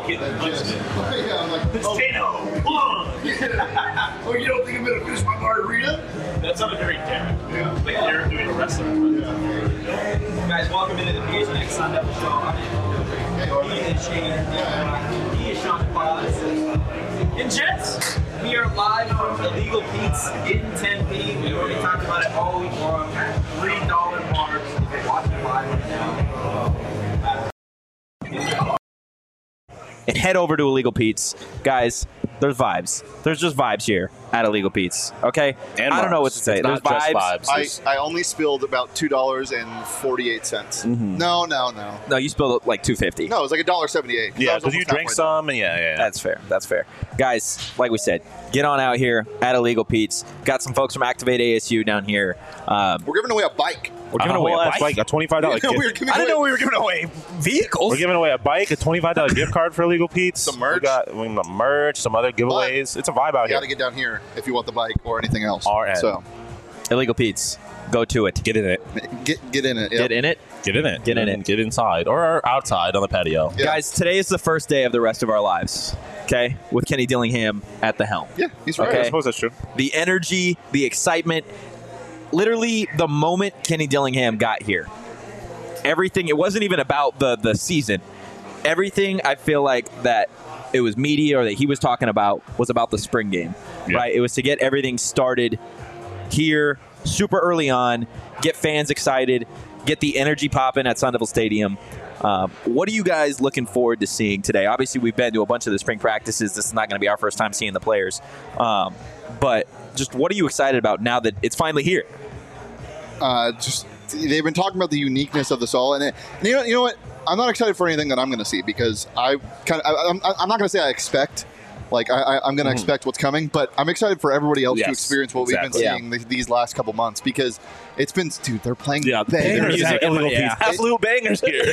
getting punched in. Yeah, I'm like, Potato! oh, you don't think I'm gonna finish my margarita? That sounded very daring. Yeah. Like you're doing a wrestling. Guys, welcome into the PHNX Sun Devil Show. I'm He is Shane. He is Sean Paz. And gents, we are live from Illegal Pete's in Tempe. We already talked about it all week long. $3 bars. If you're watching live right now. And head over to Illegal Pete's. Guys, there's vibes. There's just vibes here at Illegal Pete's, okay? And I don't know what to say. It's There's not just vibes. vibes. I only spilled about $2.48. Mm-hmm. No. No, you spilled like $2.50. No, it was like $1.78. Yeah, because you drank some, and yeah. That's fair. That's fair. Guys, like we said, get on out here at Illegal Pete's. Got some folks from Activate ASU down here. We're giving away a bike. We're giving away a bike. A $25 gift. I didn't know we were giving away vehicles. We're giving away a bike, a $25 gift card for Illegal Pete's. Some merch. We got the merch, some other giveaways. It's a vibe out You got here. to get down here if you want the bike or anything else. RN. So Illegal Pete's. Go to it. Get in it. get in it. Yep. Get in it. Get in it. Get in it. Get inside or outside on the patio. Yeah. Guys, today is the first day of the rest of our lives, okay? With Kenny Dillingham at the helm. Yeah, he's right. Okay. I suppose that's true. The energy, the excitement, literally the moment Kenny Dillingham got here, everything, it wasn't even about the season. Everything I feel like that it was media or that he was talking about was about the spring game, right? It was to get everything started here super early on, get fans excited, get the energy popping at Sun Devil Stadium. What are you guys looking forward to seeing today? Obviously, we've been to a bunch of the spring practices. This is not going to be our first time seeing the players. But just what are you excited about now that it's finally here? Just they've been talking about the uniqueness of this all, and you know what? I'm not excited for anything that I'm going to see because I'm not going to say I expect. Like I'm going to expect what's coming, but I'm excited for everybody else to experience what we've been seeing these last couple months because it's been, dude, they're playing bangers. Absolute bangers here.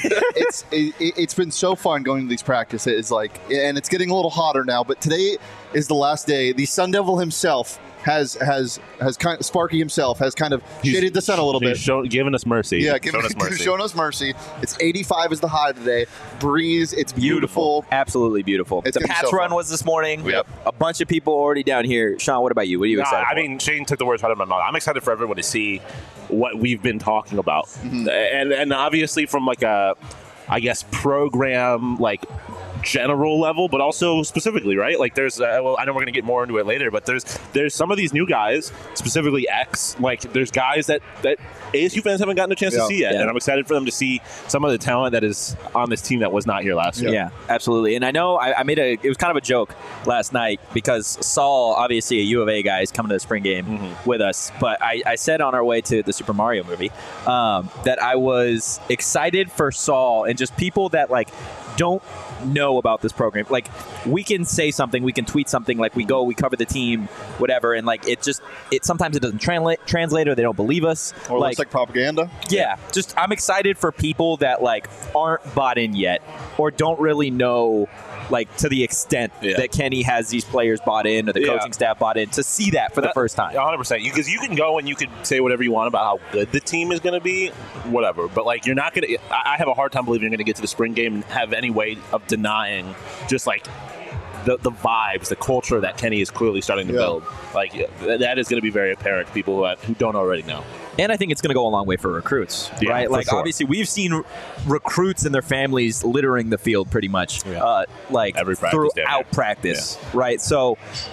It's been so fun going to these practices, and it's getting a little hotter now. But today is the last day. The Sun Devil himself has kind of, Sparky himself has kind of shaded the sun a little bit. Giving us mercy. Yeah, showing us mercy. It's 85 is the high today. Breeze, it's beautiful. Absolutely beautiful. It's the gonna be Pats so run fun. was this morning. Yep. A bunch of people already down here. Sean, what about you? What are you excited for? I mean, Shane took the words out of my mouth. I'm excited for everyone to see what we've been talking about. And obviously from like a, I guess, program like general level, but also specifically, right? Like there's, well, I know we're going to get more into it later, but there's some of these new guys, specifically X, like there's guys that ASU fans haven't gotten a chance to see yet, and I'm excited for them to see some of the talent that is on this team that was not here last year. Yeah, absolutely. And I know I made it was kind of a joke last night because Saul, obviously a U of A guy, is coming to the spring game with us, but I said on our way to the Super Mario movie that I was excited for Saul and just people that like don't know about this program. Like we can say something, we can tweet something, like we cover the team, whatever, and like it sometimes it doesn't translate or they don't believe us. Or looks like propaganda. Yeah, just I'm excited for people that like aren't bought in yet or don't really know like to the extent that Kenny has these players bought in or the coaching staff bought in to see that for the first time. 100%. Because you can go and you can say whatever you want about how good the team is going to be, whatever. But like you're not going to. I have a hard time believing you're going to get to the spring game and have any way of denying just like the vibes, the culture that Kenny is clearly starting to build. Like that is going to be very apparent to people who don't already know. And I think it's going to go a long way for recruits, right? Like, obviously, we've seen recruits and their families littering the field pretty much, like every practice throughout practice, right? So,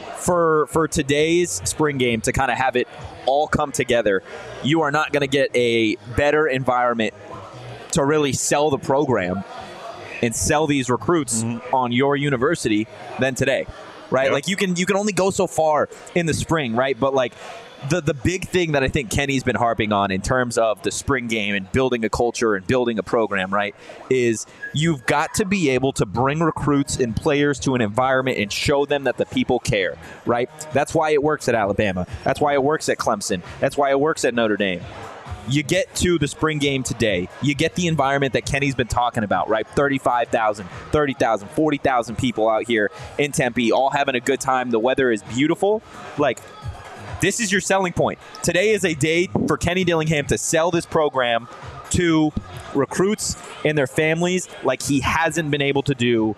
for today's spring game to kind of have it all come together, you are not going to get a better environment to really sell the program and sell these recruits on your university than today, right? Yep. Like, you can only go so far in the spring, right? But like. The big thing that I think Kenny's been harping on in terms of the spring game and building a culture and building a program, right, is you've got to be able to bring recruits and players to an environment and show them that the people care, right? That's why it works at Alabama. That's why it works at Clemson. That's why it works at Notre Dame. You get to the spring game today, you get the environment that Kenny's been talking about, right? 35,000, 30,000, 40,000 people out here in Tempe all having a good time. The weather is beautiful. Like, this is your selling point. Today is a day for Kenny Dillingham to sell this program to recruits and their families like he hasn't been able to do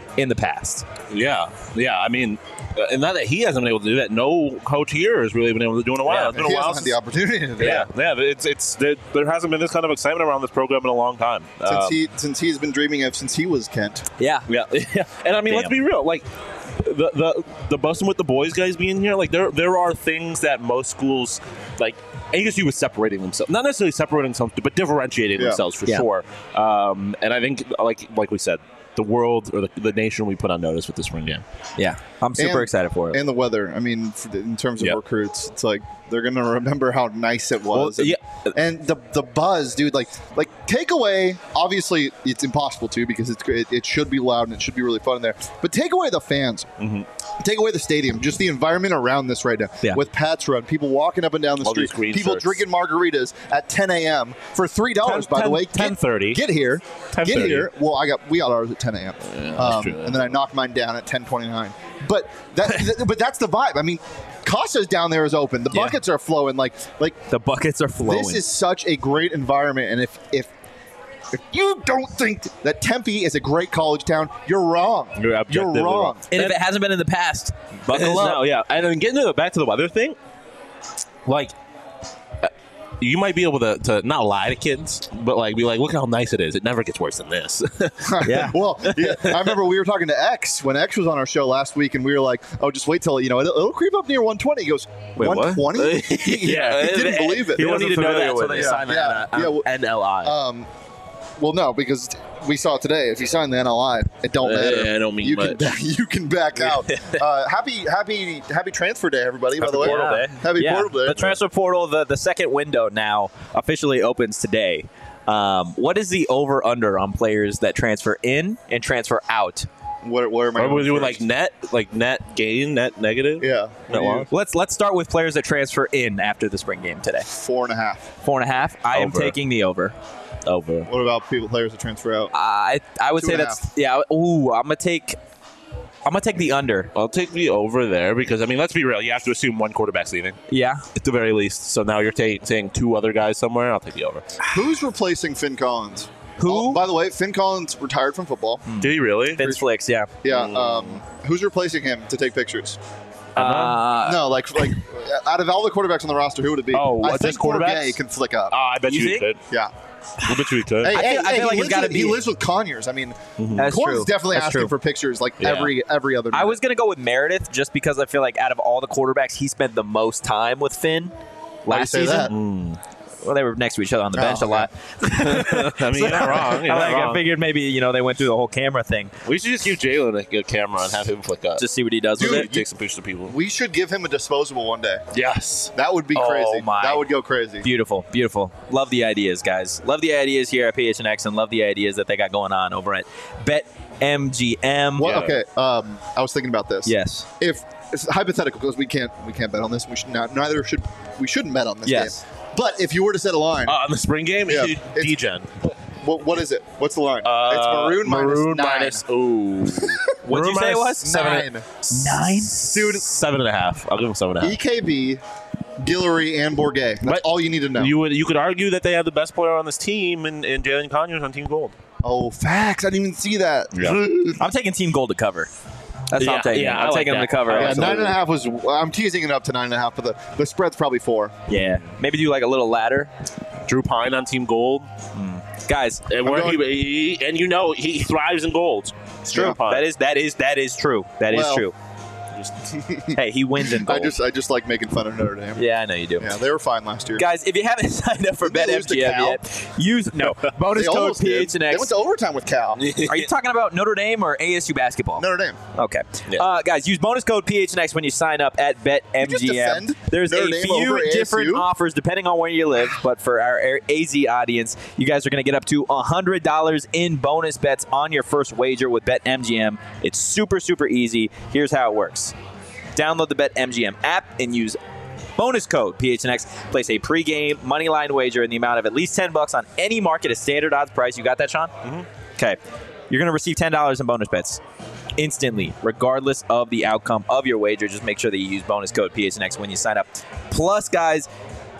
in the past. Yeah. I mean, and not that he hasn't been able to do that. No coach here has really been able to do it in a while. It's been He a while hasn't had the opportunity to do that. There hasn't been this kind of excitement around this program in a long time. Since he's been dreaming of since he was Kent. Yeah. Yeah. And I mean, let's be real. Like the busting with the boys guys being here, like there are things that most schools like. ASU was separating themselves, not necessarily separating themselves, but differentiating themselves for sure. And I think, like we said, the world or the nation we put on notice with the spring game. Yeah. I'm super excited for it. And the weather. I mean, in terms of recruits, it's like they're going to remember how nice it was. Well, and the buzz, dude, like take away, obviously it's impossible to because it should be loud and it should be really fun in there. But take away the fans. Mm-hmm. Take away the stadium, just the environment around this right now. Yeah. With Pat's Run, people walking up and down the All street, these green people shirts. drinking margaritas at 10 a.m. for $3, by the way. 10:30. Get here. 10:30. Get here. Well, we got ours at 10 a.m. That's true. And then I knocked mine down at 10:29. But that's the vibe. I mean, Casa's down there is open. The buckets are flowing. Like The buckets are flowing. this is such a great environment. And if you don't think that Tempe is a great college town, you're wrong. You're objectively wrong. and if it hasn't been in the past, buckle up. No, yeah. And then getting back to the weather thing, like, you might be able to not lie to kids, but like be like, look how nice it is. It never gets worse than this. Yeah. Well, I remember we were talking to X when X was on our show last week, and we were like, "Oh, just wait till it'll creep up near 120." He goes, Wait, what? 120? Yeah. he didn't believe it. You don't need to know that until with they it. sign Yeah. that Yeah, well- NLI. Well, no, because we saw it today. If you sign the NLI, it don't matter. Yeah, it don't mean you much. You can back out. Happy transfer day, everybody. By the way, Portal Day. Happy portal day. The transfer portal, the second window now officially opens today. What is the over/under on players that transfer in and transfer out? What am I? Are we doing first? net gain, net negative? Yeah. Net loss? Let's start with players that transfer in after the spring game today. 4.5. 4.5. I am Over. taking the over. Over. What about players that transfer out? I would say 2.5. that's Ooh, I'm gonna take the under. I'll take the over there because, I mean, let's be real. You have to assume one quarterback's leaving Yeah. at the very least. So now you're saying two other guys somewhere. I'll take the over. Who's replacing Finn Collins? Who? Oh, by the way, Finn Collins retired from football. Did he really? Vince Flicks. Yeah. Yeah. Who's replacing him to take pictures? Uh, No, like out of all the quartquarterbacks on the roster, who would it be? Oh, I just think quarterbacks? Bourget can flick up. I bet You you, think? could. Yeah. I bet you could. Hey, I feel like he it's gotta lives with- He be- lives with Conyers. I mean, That's Corn's true. definitely That's asking true. for pictures like Yeah. every other. I was going to go with Meredith just because I feel like out of all the quarterbacks, he spent the most time with Finn Why do you last say season. that? Well, they were next to each other on the bench a okay. lot. I mean, you're not wrong. You're not I wrong. figured maybe they went through the whole camera thing. We should just give Jalen a good camera and have him flick up. Just see what he does Dude, with it. take some pictures of people. We should give him a disposable one day. Yes. That would be Oh, crazy. my. That would go crazy. Beautiful, beautiful. Love the ideas, guys. Love the ideas here at PHNX, and love the ideas that they got going on over at BetMGM. Well, Yeah. okay. I was thinking about this. Yes. If it's hypothetical because we can't bet on this. We should not. We shouldn't bet on this Yes. game. But if you were to set a line, On the spring game, Yeah. D-Gen. what is it? What's the line? it's maroon minus 9. Ooh. What'd you say it was? 9. 9? Dude, 7.5. I'll give him 7.5. EKB, Guillory, and Bourget. That's But all you need to know. You could argue that they have the best player on this team in Jalen Conyers on Team Gold. Oh, facts. I didn't even see that. Yeah. I'm taking Team Gold to cover. That's what I'm taking. Yeah, I I'm like taking them that. to cover. I Yeah, like absolutely. 9.5 was. I'm teasing it up to 9.5, but the spread's probably 4. Yeah. Maybe do like a little ladder. Drew Pine on Team Gold. Guys, And he thrives in golds. It's true. that is true. That is Well- true. Hey, he wins in gold. I just like making fun of Notre Dame. Yeah, I know you do. Yeah, they were fine last year. Guys, if you haven't signed up for Didn't they lose to BetMGM Cal? yet, use bonus They code almost did. They went PHNX. to overtime with Cal. Are you talking about Notre Dame or ASU basketball? Notre Dame. Okay. Yeah. Guys, use bonus code PHNX when you sign up at just BetMGM. defend There's Notre a Dame few over different ASU? offers depending on where you live, but for our AZ audience, you guys are going to get up to $100 in bonus bets on your first wager with BetMGM. It's super, super easy. Here's how it works. Download the BetMGM app and use bonus code PHNX. Place a pregame moneyline wager in the amount of at least $10 on any market at standard odds price. You got that, Sean? Mm-hmm. Okay. You're going to receive $10 in bonus bets instantly, regardless of the outcome of your wager. Just make sure that you use bonus code PHNX when you sign up. Plus, guys,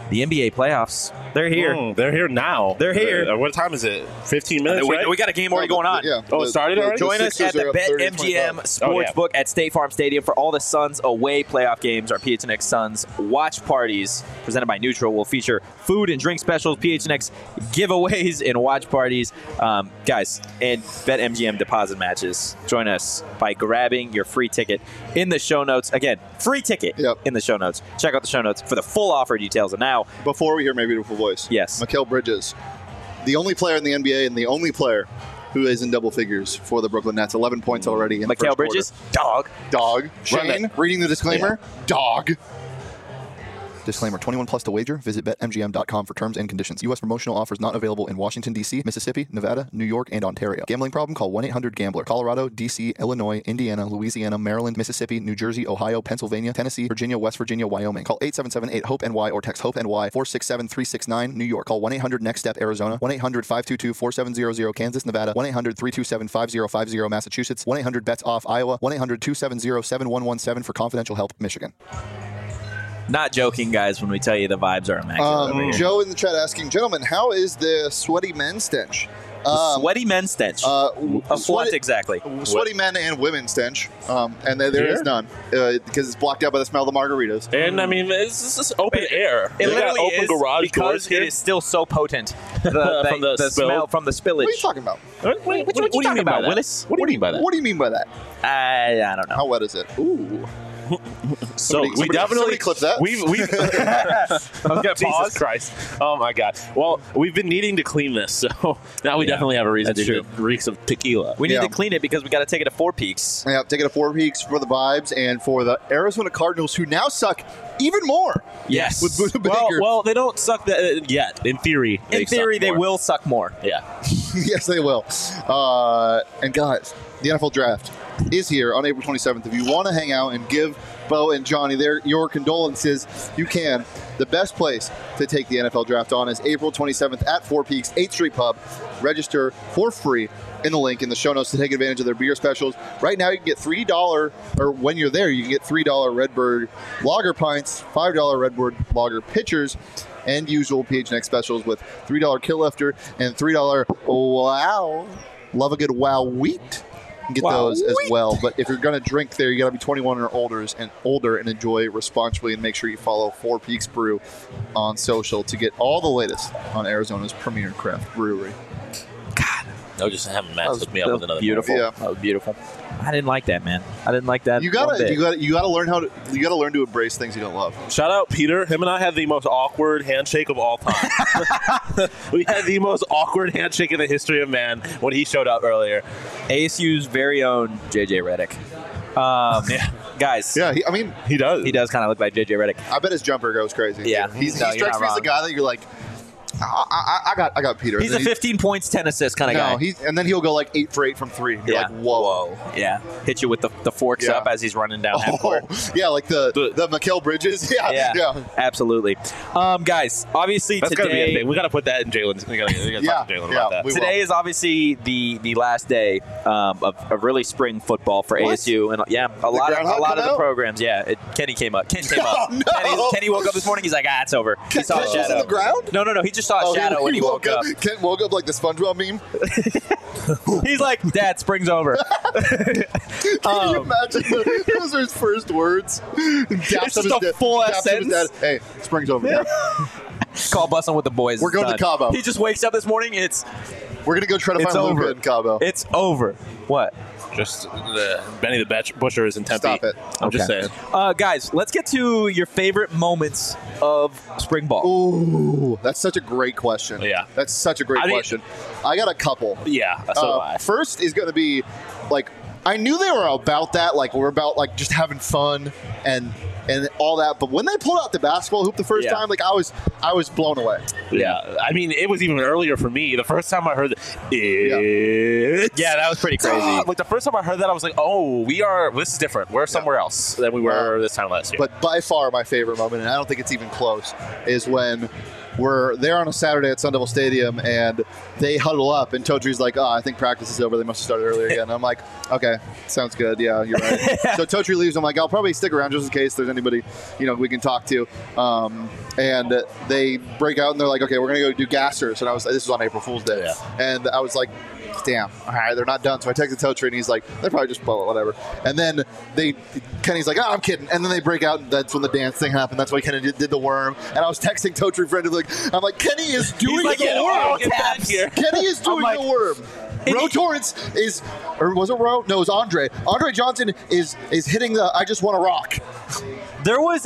the NBA playoffs. They're here. They're here now. They're here. What time is it? 15 minutes, right? We got a game already going on. Yeah. Oh, it started already? Join us at the BetMGM BetMGM Sportsbook at State Farm Stadium for all the Suns away playoff games. Our PHNX Suns watch parties presented by Neutral will feature food and drink specials, PHNX giveaways, and watch parties. Guys, and BetMGM deposit matches. Join us by grabbing your free ticket in the show notes. Again, free ticket in the show notes. Check out the show notes for the full offer details. And now, before we hear My Beautiful Voice, yes, Mikal Bridges, the only player in the NBA and the only player who is in double figures for the Brooklyn Nets. 11 points already in the first Bridges, quarter. Dog. Shane, reading the disclaimer, dog. Disclaimer, 21 plus to wager. Visit BetMGM.com for terms and conditions. U.S. promotional offers not available in Washington, D.C., Mississippi, Nevada, New York, and Ontario. Gambling problem? Call 1-800-GAMBLER. Colorado, D.C., Illinois, Indiana, Louisiana, Maryland, Mississippi, New Jersey, Ohio, Pennsylvania, Tennessee, Virginia, West Virginia, Wyoming. Call 877-8-HOPE-NY or text HOPE-NY 467-369, New York. Call 1-800-NEXT-STEP, Arizona. 1-800-522-4700, Kansas, Nevada. 1-800-327-5050, Massachusetts. 1-800-BETS-OFF, Iowa. 1-800-270-7117 for confidential help, Michigan. Not joking, guys, when we tell you the vibes are immaculate over here. Joe in the chat asking, gentlemen, how is the sweaty men stench? Sweaty men stench. Of what exactly? Sweaty men and women stench. And there is none because it's blocked out by the smell of the margaritas. And I mean, it's just open air. It literally open is garage because it is still so potent. The smell from the spillage. What are you talking about? What do you mean by that, Willis? What do you mean by that? What do you mean by that? I don't know. How wet is it? Ooh. So we definitely somebody clip that. We've Jesus Christ! Oh my God! Well, we've been needing to clean this, so now we definitely have a reason to. It reeks of tequila. We need to clean it because we got to take it to Four Peaks. Yeah, take it to Four Peaks for the vibes and for the Arizona Cardinals, who now suck even more. Yes. With Buda Baker. Well, they don't suck that yet. In theory, they will suck more. Yeah. Yes, they will. And guys, the NFL Draft is here on April 27th. If you want to hang out and give Bo and Johnny your condolences, you can. The best place to take the NFL Draft on is April 27th at Four Peaks, 8th Street Pub. Register for free in the link in the show notes to take advantage of their beer specials. Right now, you can get $3, or when you're there, you can get $3 Redbird Lager pints, $5 Redbird Lager pitchers, and usual PHNX specials with $3 Kill Lifter and $3 Wow. Love a good Wow Wheat. Get those as well. But if you're going to drink there, you got to be 21 or older and enjoy responsibly, and make sure you follow Four Peaks Brew on social to get all the latest on Arizona's premier craft brewery. God, I was just having Matt hook me up with another. Beautiful. Yeah. That was beautiful. I didn't like that, man. I didn't like that. You gotta learn to embrace things you don't love. Shout out Peter. Him and I had the most awkward handshake of all time. We had the most awkward handshake in the history of man when he showed up earlier. ASU's very own JJ Redick. Guys. Yeah, he does. He does kind of look like JJ Redick. I bet his jumper goes crazy. Yeah, he strikes me as the guy that you're like, I got Peter. He's a 15 points, 10 assists kind of guy. And then he'll go like 8 for 8 from 3. You're like, whoa. Yeah. Hit you with the forks up as he's running down half court. Yeah, like the Mikal Bridges. Yeah. Absolutely. Guys, obviously That's today gotta be a thing. We got to put that in Jalen's. We got to talk to Jalen about that. Today is obviously the last day of really spring football for ASU, and a lot of the programs. Yeah, Kenny came up. Ken came up. No. Kenny woke up this morning. He's like, it's over. He saw a Ken shadow. was on the ground? No. He just saw a shadow when he woke up. Ken woke up like the SpongeBob meme. He's like, Dad, spring's over. Can you imagine those are his first words? It's just a full-ass sentence. Hey, spring's over. Yeah. Call busting with the boys. We're going to Cabo. He just wakes up this morning. We're going to go try to find Luca in Cabo. It's over. What? Just Benny the Butcher is in Tempe. Stop it. I'm just saying. Guys, let's get to your favorite moments of spring ball. Ooh, that's such a great question. Yeah. That's such a great question. I got a couple. Yeah, so do I. First is going to be, like, I knew they were about that. Like, we're about, like, just having fun and all that. But when they pulled out the basketball hoop the first time, like, I was blown away. Yeah. I mean, it was even earlier for me. The first time I heard that was pretty crazy. Like, the first time I heard that, I was like, this is different. We're somewhere else than we were this time last year. But by far my favorite moment, and I don't think it's even close, is when we're there on a Saturday at Sun Devil Stadium, and they huddle up, and Totri's like, "Oh, I think practice is over. They must have started earlier again." And I'm like, "Okay, sounds good. Yeah, you're right." So Totri leaves. I'm like, "I'll probably stick around just in case there's anybody, we can talk to." And they break out, and they're like, "Okay, we're gonna go do gassers." And this was on April Fool's Day, and I was like, damn, all right, they're not done. So I texted Totri, and he's like, they're probably just whatever. And then Kenny's like, oh, I'm kidding. And then they break out, and that's when the dance thing happened. That's why Kenny did the worm. And I was texting Totri frantically. I'm like, Kenny is doing the worm. Kenny is doing the worm. Ro Torrance is, or was it Ro? No, it was Andre. Andre Johnson is hitting the I just want to rock. There was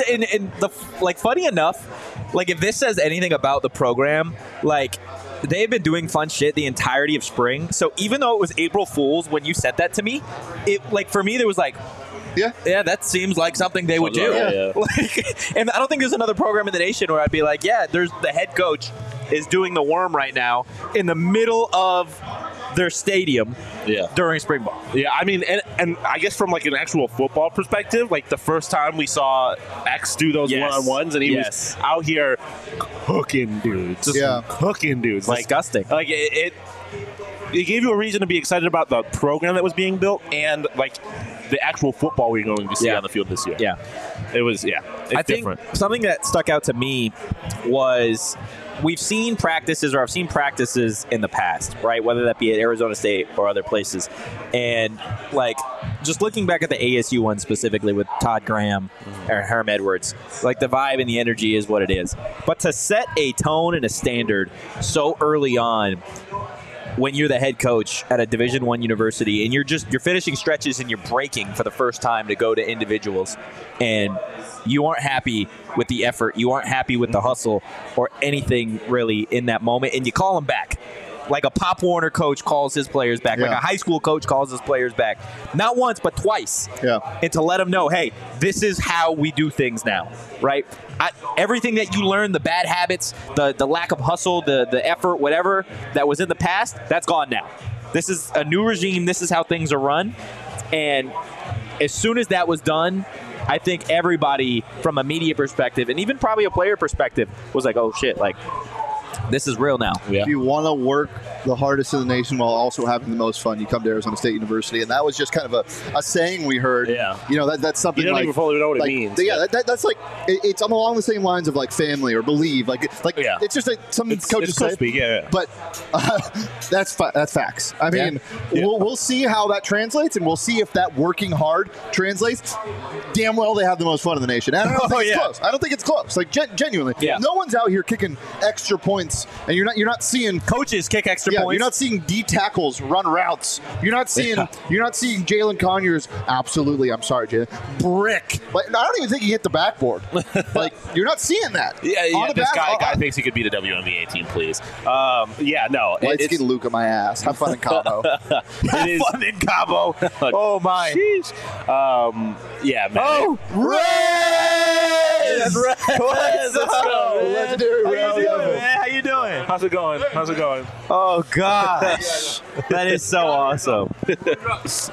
funny enough, like if this says anything about the program, like they've been doing fun shit the entirety of spring. So even though it was April Fool's when you said that to me, it like for me there was like, yeah, that seems like something they would do. Yeah. Like, and I don't think there's another program in the nation where I'd be like, yeah, there's the head coach is doing the worm right now in the middle of their stadium during spring ball. Yeah, I mean, and I guess from like an actual football perspective, like the first time we saw X do those one-on-ones, and he was out here cooking dudes. Cooking dudes. Disgusting. Like it gave you a reason to be excited about the program that was being built and like the actual football we're going to see on the field this year. Yeah. It was, it's different. Think something that stuck out to me was I've seen practices in the past, right? Whether that be at Arizona State or other places. And, like, just looking back at the ASU one specifically with Todd Graham or Herm Edwards, like, the vibe and the energy is what it is. But to set a tone and a standard so early on when you're the head coach at a Division I university and you're finishing stretches and you're breaking for the first time to go to individuals and you aren't happy with the effort, you aren't happy with the hustle or anything really in that moment, and you call them back. Like a Pop Warner coach calls his players back. Like a high school coach calls his players back. Not once, but twice. Yeah. And to let them know, hey, this is how we do things now, right? Everything that you learned, the bad habits, the lack of hustle, the effort, whatever that was in the past, that's gone now. This is a new regime. This is how things are run. And as soon as that was done, I think everybody from a media perspective and even probably a player perspective was like, oh, shit, like, this is real now. If you want to work the hardest in the nation while also having the most fun, you come to Arizona State University. And that was just kind of a saying we heard. Yeah. That's something you don't like, even fully know what like, it means. Yeah, that's like, it's along the same lines of like family or believe. It's just like some coaches say. Speak, But that's facts. I mean, we'll see how that translates, and we'll see if that working hard translates. Damn well they have the most fun in the nation. And I don't think it's close. I don't think it's close. Like, genuinely. Yeah. No one's out here kicking extra points, and you're not seeing coaches kick extra points. You're not seeing D tackles run routes. You're not seeing Jalen Conyers. Absolutely, I'm sorry, Jalen. Brick. Like, I don't even think he hit the backboard. Like, you're not seeing that. This guy thinks he could beat a WNBA team, please. Light skin Luke on my ass. Have fun in Cabo. Have fun in Cabo. Oh my. Jeez. Man. Oh, Rez! Let's go. Legendary Rez. How you doing? How's it going? Oh gosh, that is so awesome. It's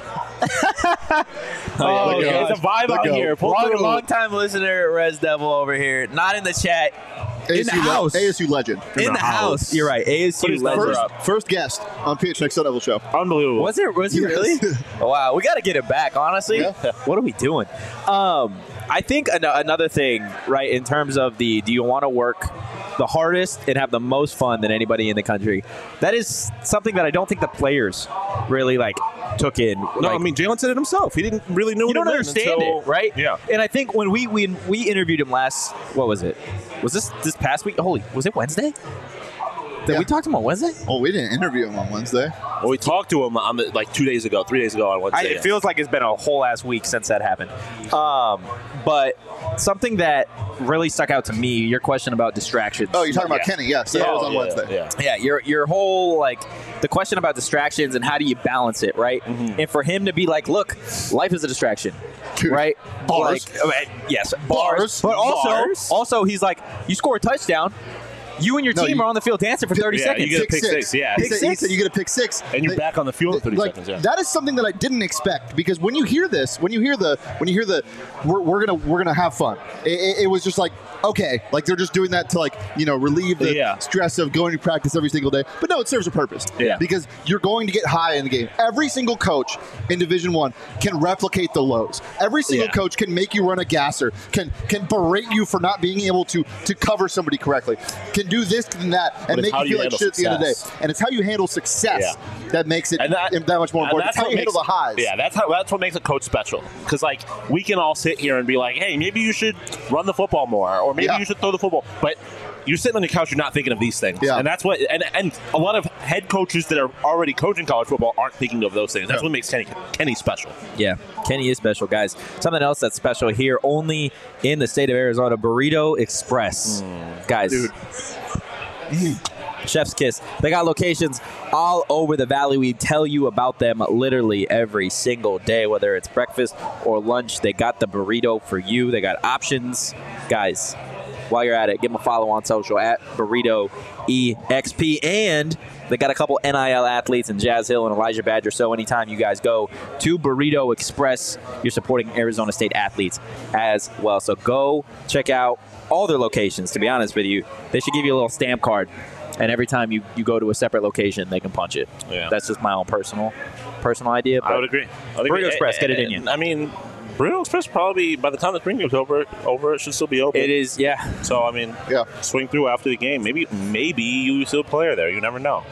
a vibe out here. Long time listener, Rez Devil over here. Not in the chat. In the house. ASU legend. In the house. You're right. ASU legend. First guest on PHNX Sun Devil Show. Unbelievable. Was he really? Wow. We got to get it back, honestly. Yeah. What are we doing? I think another thing, right, in terms of do you want to work the hardest and have the most fun than anybody in the country, that is something that I don't think the players really, took in. No, I mean, Jalen said it himself. He didn't really know what you don't understand it, right? Yeah. And I think when we interviewed him last, what was it? Was this past week? Was it Wednesday? We talked to him on Wednesday? Oh, we didn't interview him on Wednesday. Well, we talked to him on 3 days ago on Wednesday. It feels like it's been a whole ass week since that happened. But something that really stuck out to me, your question about distractions. Oh, you're talking about Kenny, yes. That was on Wednesday. Yeah, your whole, the question about distractions and how do you balance it, right? Mm-hmm. And for him to be like, look, life is a distraction. Dude, right? Bars. Yes, bars. But also, he's like, you score a touchdown, you and your team are on the field dancing for 30 seconds. You get a pick six. Yeah. He said you get a pick six. And you're back on the field in 30 seconds. Yeah. That is something that I didn't expect, because when you hear this, when you hear the we're gonna have fun, it was just like, okay, like they're just doing that to relieve the stress of going to practice every single day. But no, it serves a purpose. Yeah. Because you're going to get high in the game. Every single coach in Division I can replicate the lows. Every single coach can make you run a gasser, can berate you for not being able to cover somebody correctly, can do this and that, and make you feel like shit at the end of the day. And it's how you handle success that makes it that much more important. It's how you handle the highs. Yeah, that's what makes a coach special. Because we can all sit here and be like, hey, maybe you should run the football more, or maybe you should throw the football. But you're sitting on the couch, you're not thinking of these things. Yeah. And that's what and a lot of head coaches that are already coaching college football aren't thinking of those things. That's what makes Kenny special. Yeah, Kenny is special, guys. Something else that's special here only in the state of Arizona, Burrito Express. Guys. Dude. Chef's kiss. They got locations all over the valley. We tell you about them literally every single day, whether it's breakfast or lunch. They got the burrito for you. They got options. Guys, while you're at it, give them a follow on social at Burrito EXP. And they got a couple NIL athletes in Jazz Hill and Elijah Badger. So anytime you guys go to Burrito Express, you're supporting Arizona State athletes as well. So go check out all their locations. To be honest with you, they should give you a little stamp card. And every time you go to a separate location, they can punch it. Yeah. That's just my own personal idea. But I would agree. Burrito Express, get it in you. I mean, Burrito Express probably, by the time the spring game's over, it should still be open. It is, yeah. So, I mean, swing through after the game. Maybe you still play her there. You never know.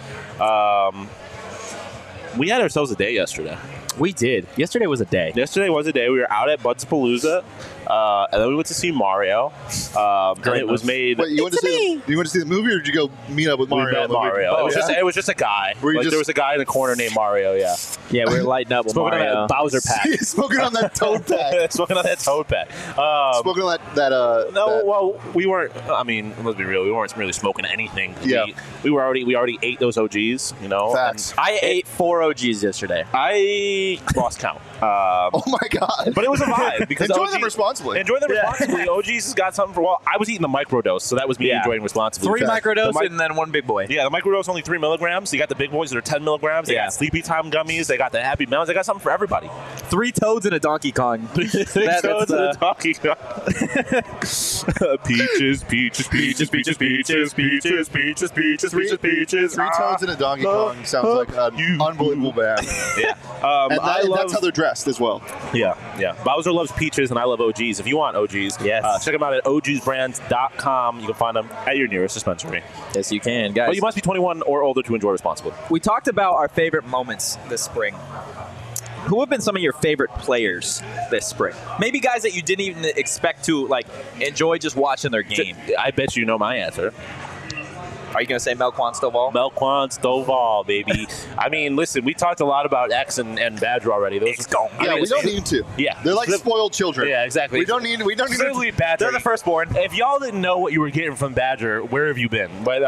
We had ourselves a day yesterday. We did. Yesterday was a day. We were out at Bud's Palooza, and then we went to see Mario. And it was made. Wait, you went to see the movie, or did you go meet up with Mario? We met Mario. Oh, it was just a guy. There was a guy in the corner named Mario. Yeah. Yeah, we were lighting up with Smoking Mario. on that Bowser pack. Smoking on that Toad pack. Smoking on that Toad pack. Smoking on that. Well, we weren't. I mean, let's be real. We weren't really smoking anything. Yeah. We already ate those OGs. You know. Facts. I ate 4 OGs yesterday. I lost count. Oh my god! But it was a vibe because enjoy them responsibly. OGs has got something for. Well, I was eating the microdose, so that was me enjoying responsibly. 3 microdose and then 1 big boy. Yeah, the microdose only 3 milligrams. So you got the big boys that are 10 milligrams. They got Sleepy Time gummies. They got the Happy Mounds. They got something for everybody. 3 toads and a Donkey Kong. 3 toads and a Donkey Kong. Peaches. 3 toads and a Donkey Kong sounds like an unbelievable band. Yeah, and that's how they're dressed as well. Yeah. Bowser loves peaches, and I love OGs. If you want OGs, check them out at ogsbrands.com. You can find them at your nearest dispensary. Yes, you can, guys. But you must be 21 or older to enjoy responsibly. We talked about our favorite moments this spring. Who have been some of your favorite players this spring? Maybe guys that you didn't even expect to enjoy just watching their game. I bet you know my answer. Are you going to say Melquan Stovall? Melquan Stovall, baby. I mean, listen, we talked a lot about X and Badger already. We don't need to. Yeah. They're like spoiled children. Yeah, exactly. We don't need to. Badger. They're the firstborn. If y'all didn't know what you were getting from Badger, where have you been? But,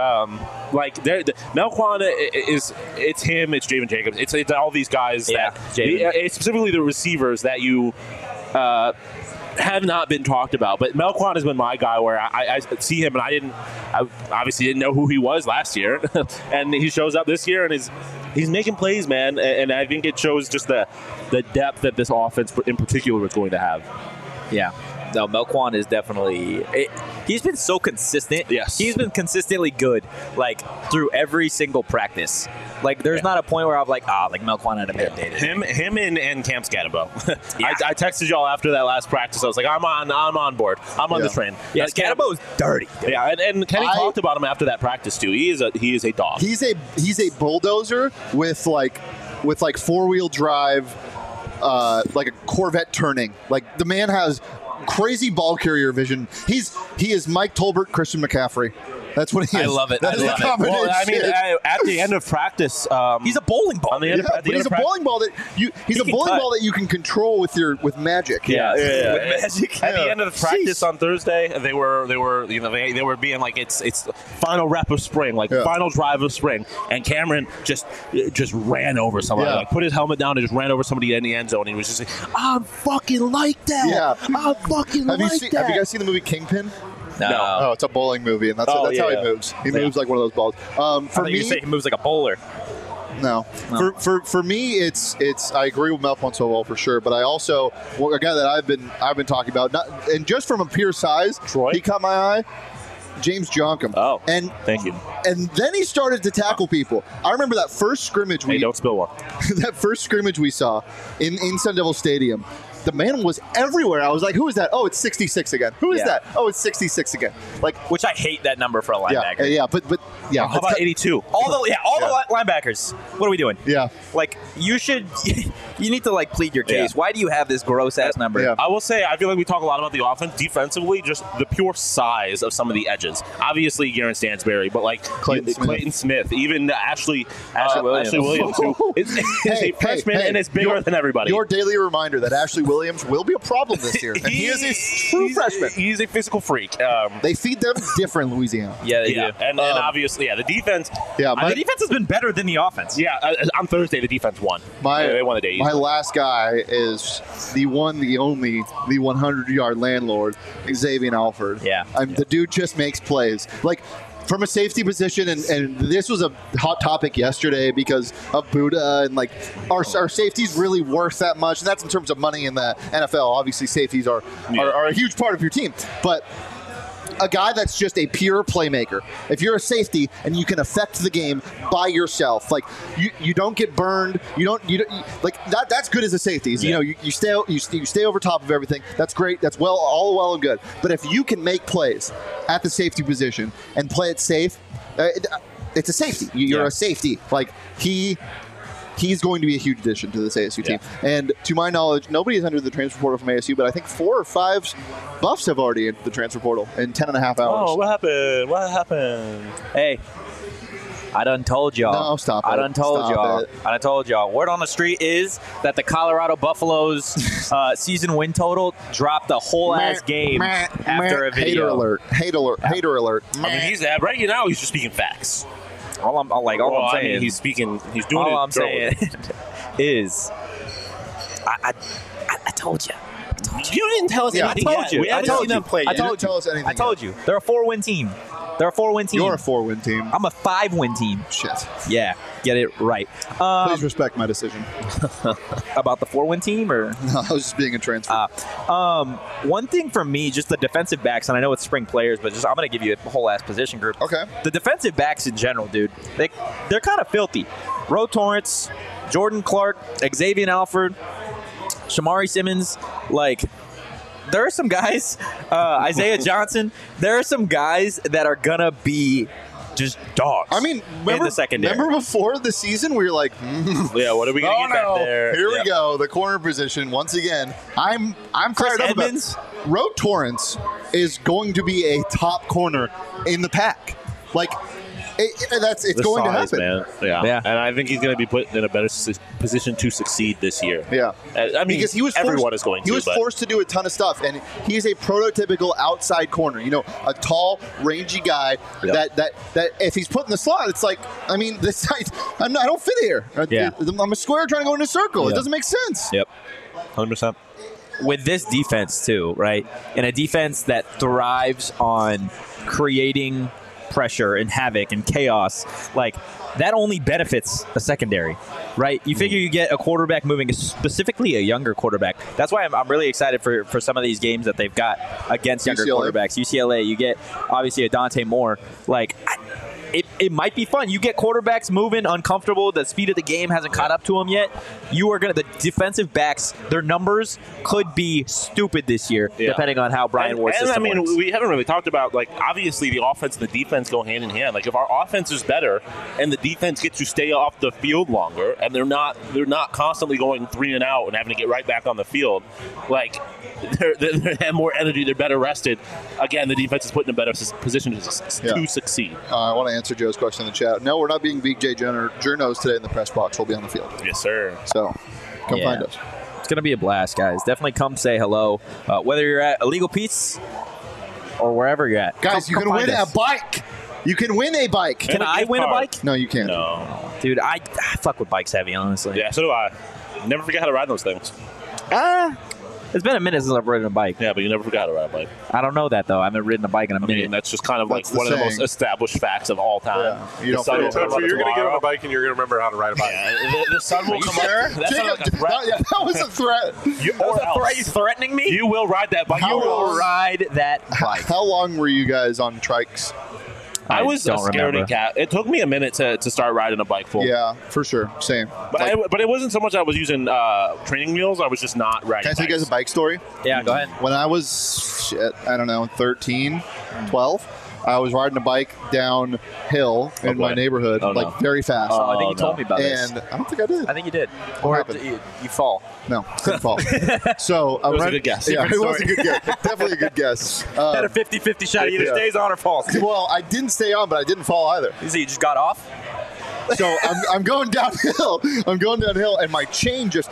Melquan it's him, it's Javen Jacobs. It's all these guys it's specifically the receivers that you have not been talked about, but Melquan has been my guy where I see him and I obviously didn't know who he was last year, and he shows up this year and he's making plays, man, and I think it shows just the depth that this offense in particular is going to have. Yeah. No, Melquan is definitely he's been so consistent. Yes. He's been consistently good, through every single practice. There's not a point where I'm Melquan had a bad day today. Him and Cam Scannabo. I texted y'all after that last practice. I was like, I'm on board. I'm on the train. Yeah, Scannabo is dirty. Yeah, and Kenny talked about him after that practice too. He is a dog. He's a bulldozer with 4-wheel drive, like a Corvette turning. The man has crazy ball carrier vision. He is Mike Tolbert, Christian McCaffrey. That's what he is. I love it. That is the combination. Well, I mean, at the end of practice, he's a bowling ball. He's a bowling ball that you can control with magic. Yeah. With magic. At the end of the practice on Thursday, they were being like it's final rep of spring, final drive of spring, and Cameron just ran over somebody, put his helmet down and just ran over somebody in the end zone. And he was just like, I'm fucking like that. Yeah. I'm fucking like that. Have you guys seen the movie Kingpin? No. Oh, it's a bowling movie, and that's how he moves. He moves like one of those balls. For me, you say he moves like a bowler. No. For me, it's. I agree with Mel Ponsoval for sure, but I also a guy that I've been talking about, and just from a pure size, Troy? he caught my eye. James Jonkum. Oh, and thank you. And then he started to tackle people. I remember that first scrimmage. Hey, don't spill one. That first scrimmage we saw in Sun Devil Stadium. The man was everywhere. I was like, who is that? Oh, it's 66 again. Who is that? Oh, it's 66 again. Like, Which I hate that number for a linebacker. Yeah, but yeah. How about 82? All the linebackers. What are we doing? Yeah. Like, you need to like plead your case. Yeah. Why do you have this gross ass number? Yeah. I will say, I feel like we talk a lot about the offense. Defensively, just the pure size of some of the edges. Obviously, Garen Stansberry, but like Clayton Smith, even Ashley Williams, who is a freshman and is bigger than everybody. Your daily reminder that Ashley Williams will be a problem this year, and he is a true freshman. He's a physical freak. They feed them different in Louisiana. Yeah, they do. And obviously, the defense. Yeah, The defense has been better than the offense. Yeah, on Thursday, the defense won. They won the day. My last guy is the one, the only, the 100-yard landlord, Xavier Alford. Yeah. The dude just makes plays. Like, from a safety position, and this was a hot topic yesterday because of Buddha, and like our safety's really worth that much, and that's in terms of money in the NFL. Obviously, safeties are a huge part of your team, but a guy that's just a pure playmaker. If you're a safety and you can affect the game by yourself, like you don't get burned, you don't like that. That's good as a safety. You know, you stay over top of everything. That's great. That's all well and good. But if you can make plays at the safety position and play it safe, it's a safety. You're a safety. Like he's going to be a huge addition to this ASU team. And to my knowledge, nobody has entered the transfer portal from ASU, but I think 4 or 5 Buffs have already entered the transfer portal in 10 and a half hours. Oh, what happened? What happened? Hey, I done told y'all. No, stop it. I done told Stop y'all. it. I done told y'all. Word on the street is that the Colorado Buffaloes season win total dropped a whole ass game after a video. Hater alert. Hater alert. I mean, he's right now. He's just speaking facts. All I'm saying. I mean, he's speaking. He's doing it. All I'm saying is, I told you. You didn't tell us anything I told yet. you. We haven't seen them play I yet. told tell us anything. I told you. They're a 4-win team. You're a 4-win team. I'm a 5-win team. Shit. Yeah, get it right. Please respect my decision. About the 4-win team, or No, I was just being a transfer. one thing for me, just the defensive backs, and I know it's spring players, but I'm going to give you a whole ass position group. Okay. The defensive backs in general, dude, they're kind of filthy. Ro Torrance, Jordan Clark, Xavier Alford, Shamari Simmons, like. There are some guys, Isaiah Johnson, there are some guys that are going to be just dogs. I mean, in the secondary. remember before the season, we were like, Yeah, what are we going to get back there? Here we go, the corner position once again. I'm Chris fired up about Edmonds? Ro Torrance is going to be a top corner in the pack. Like, it's The going size, to happen. Man. Yeah. And I think he's going to be put in a better position to succeed this year. Yeah, I mean, because everyone is going to. He was forced to do a ton of stuff, and he's a prototypical outside corner. You know, a tall, rangy guy that if he's put in the slot, it's like, I mean, this I don't fit here. Yeah. I'm a square trying to go in a circle. Yeah. It doesn't make sense. Yep. 100%. With this defense too, right? And a defense that thrives on creating pressure and havoc and chaos, like that only benefits a secondary, right? You figure you get a quarterback moving, specifically a younger quarterback. That's why I'm really excited for some of these games that they've got against younger quarterbacks. UCLA, you get obviously a Dante Moore. Like, it might be fun. You get quarterbacks moving, uncomfortable. The speed of the game hasn't caught up to them yet. The defensive backs, their numbers could be stupid this year, depending on how Brian Ward's system works. We haven't really talked about, like, obviously the offense and the defense go hand in hand. Like, if our offense is better and the defense gets to stay off the field longer, and they're not constantly going 3 and out and having to get right back on the field, like, they have more energy. They're better rested. Again, the defense is put in a better position to succeed. I want to answer Joe's question in the chat. No, we're not being BJ Journos today in the press box. We'll be on the field. Yes, sir. So come find us. It's going to be a blast, guys. Definitely come say hello. Whether you're at Illegal Pete's or wherever you're at. Guys, you can win a bike. You can win a bike. Can I win a bike? No, you can't. No. Dude, I fuck with bikes heavy, honestly. Yeah, so do I. Never forget how to ride those things. It's been a minute since I've ridden a bike. Yeah, but you never forgot to ride a bike. I don't know that though. I haven't ridden a bike in a I minute. mean, that's just kind of like That's the one of the most saying. established facts of all time. Yeah. You don't sun forget will about come So up you're going to get on tomorrow. a bike and you're going to remember how to ride a bike. Yeah, the sun will come Sure. up. That sounded Jacob, like a threat. that was a threat. Or else. Are you threatening me? You will ride that bike. How You You will will ride that bike. How long were you guys on trikes? I was a don't scaredy remember. cat. It took me a minute to start riding a bike full. Yeah, for sure. Same. But, but it wasn't so much I was using training wheels. I was just not riding. Can I tell you guys a bike story? Yeah, go ahead. When I was, I don't know, 13, 12, I was riding a bike downhill in my boy. neighborhood, Oh, no. like very fast. Oh, I think you no. told me about this. And I don't think I did. I think you did. What Or happened? you fall. No, couldn't fall. So I was a good guess. Yeah, it Different was a good guess. Definitely a good guess. Had a 50-50 shot. Either yeah. stays on or falls. Well, I didn't stay on, but I didn't fall either. So you just got off? So I'm going downhill. I'm going downhill, and my chain just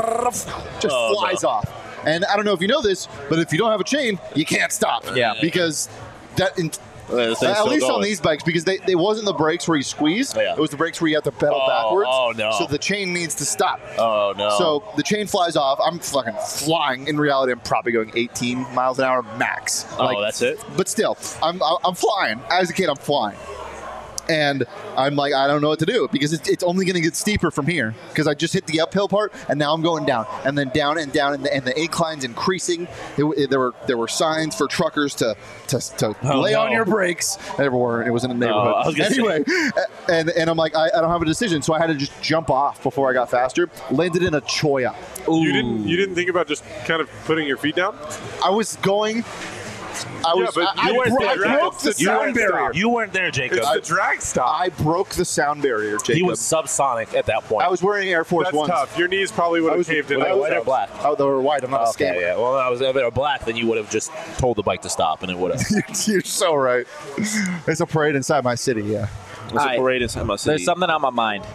flies off. And I don't know if you know this, but if you don't have a chain, you can't stop. Yeah. Because that. This thing's At still least on going. these bikes, because they wasn't the brakes where you squeeze. Oh, yeah. It was the brakes where you have to pedal Oh, backwards. oh, no. So the chain needs to stop. Oh no. So the chain flies off. I'm fucking flying. In reality, I'm probably going 18 miles an hour max. Oh, that's it? But still, I'm flying. As a kid, I'm flying. And I'm like, I don't know what to do because it's only going to get steeper from here because I just hit the uphill part and now I'm going down and then down and down and the incline's increasing. There were signs for truckers to lay on no. your brakes. There weren't. It was in a I neighborhood. was gonna Anyway, and I'm like, I don't have a decision, so I had to just jump off before I got faster. Landed in a choya. You didn't think about just kind of putting your feet down? I was going. I was. but I you weren't broke there. the You sound weren't barrier. You weren't there, Jacob. It's the drag stop. I broke the sound barrier, Jacob. He was subsonic at that point. I was wearing Air Force That's Ones. tough. Your knees probably would I have was- caved in. I Wait, was- white or black? Oh, they were white. I'm not a Okay, skater. yeah. Well, if they were black, then you would have just told the bike to stop, and it would have. You're so right. It's a parade inside my city. Yeah. It's a Alright. parade inside my city. There's something on my mind.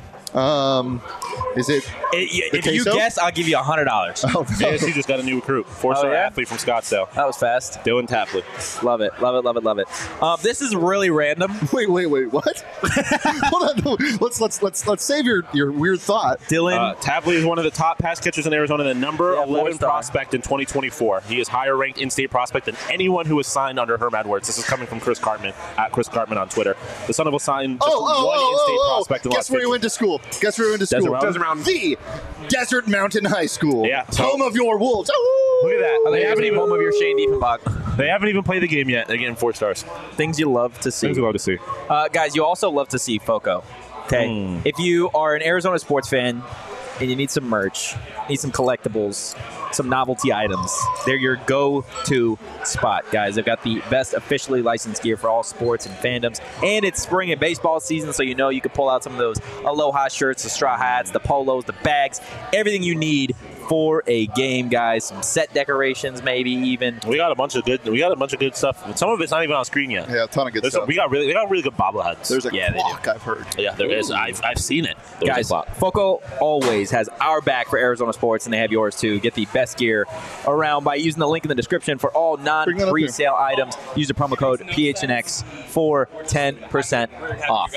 Is it? If you queso? guess, I'll give you $100. Oh, no. JSU just got a new recruit, four-star Oh, yeah? athlete from Scottsdale, That was fast. Dylan Tapley. Love it. Love it. Love it. Love it. This is really random. Wait. What? Hold on. No. Let's save your weird thought. Dylan. Tapley is one of the top pass catchers in Arizona, the number Yeah, 11 four-star. prospect in 2024. He is higher ranked in-state prospect than anyone who was signed under Herm Edwards. This is coming from Chris Cartman, at Chris Cartman on Twitter. The son of a signed just one in-state prospect in the Guess last where he 15 went to school? Guess where he went to Desert school? Mountain? Desert Mountain. The Desert Mountain High School. Yeah. Home of your Wolves. Look at that. They haven't even home of your Shane Diefenbach. They haven't even played the game yet. They're getting 4 stars. Things you love to see. Things we love to see. Guys, you also love to see FOCO. Okay, if you are an Arizona sports fan and you need some merch, need some collectibles, some novelty items, they're your go-to spot, guys. They've got the best officially licensed gear for all sports and fandoms, and it's spring and baseball season, so you know you can pull out some of those Aloha shirts, the straw hats, the polos, the bags, everything you need for a game, guys. Some set decorations, maybe even. We got a bunch of good stuff. Some of it's not even on screen yet. Yeah, a ton of good stuff. They got really good bobbleheads. There's a Yeah, they clock I've heard. Yeah, there is. I've seen it. There's Guys, a clock. FOCO always has our back for Arizona sports, and they have yours too. Get the best gear around by using the link in the description for all Bring that up here. non-resale items. Use the promo code PHNX for 10% off.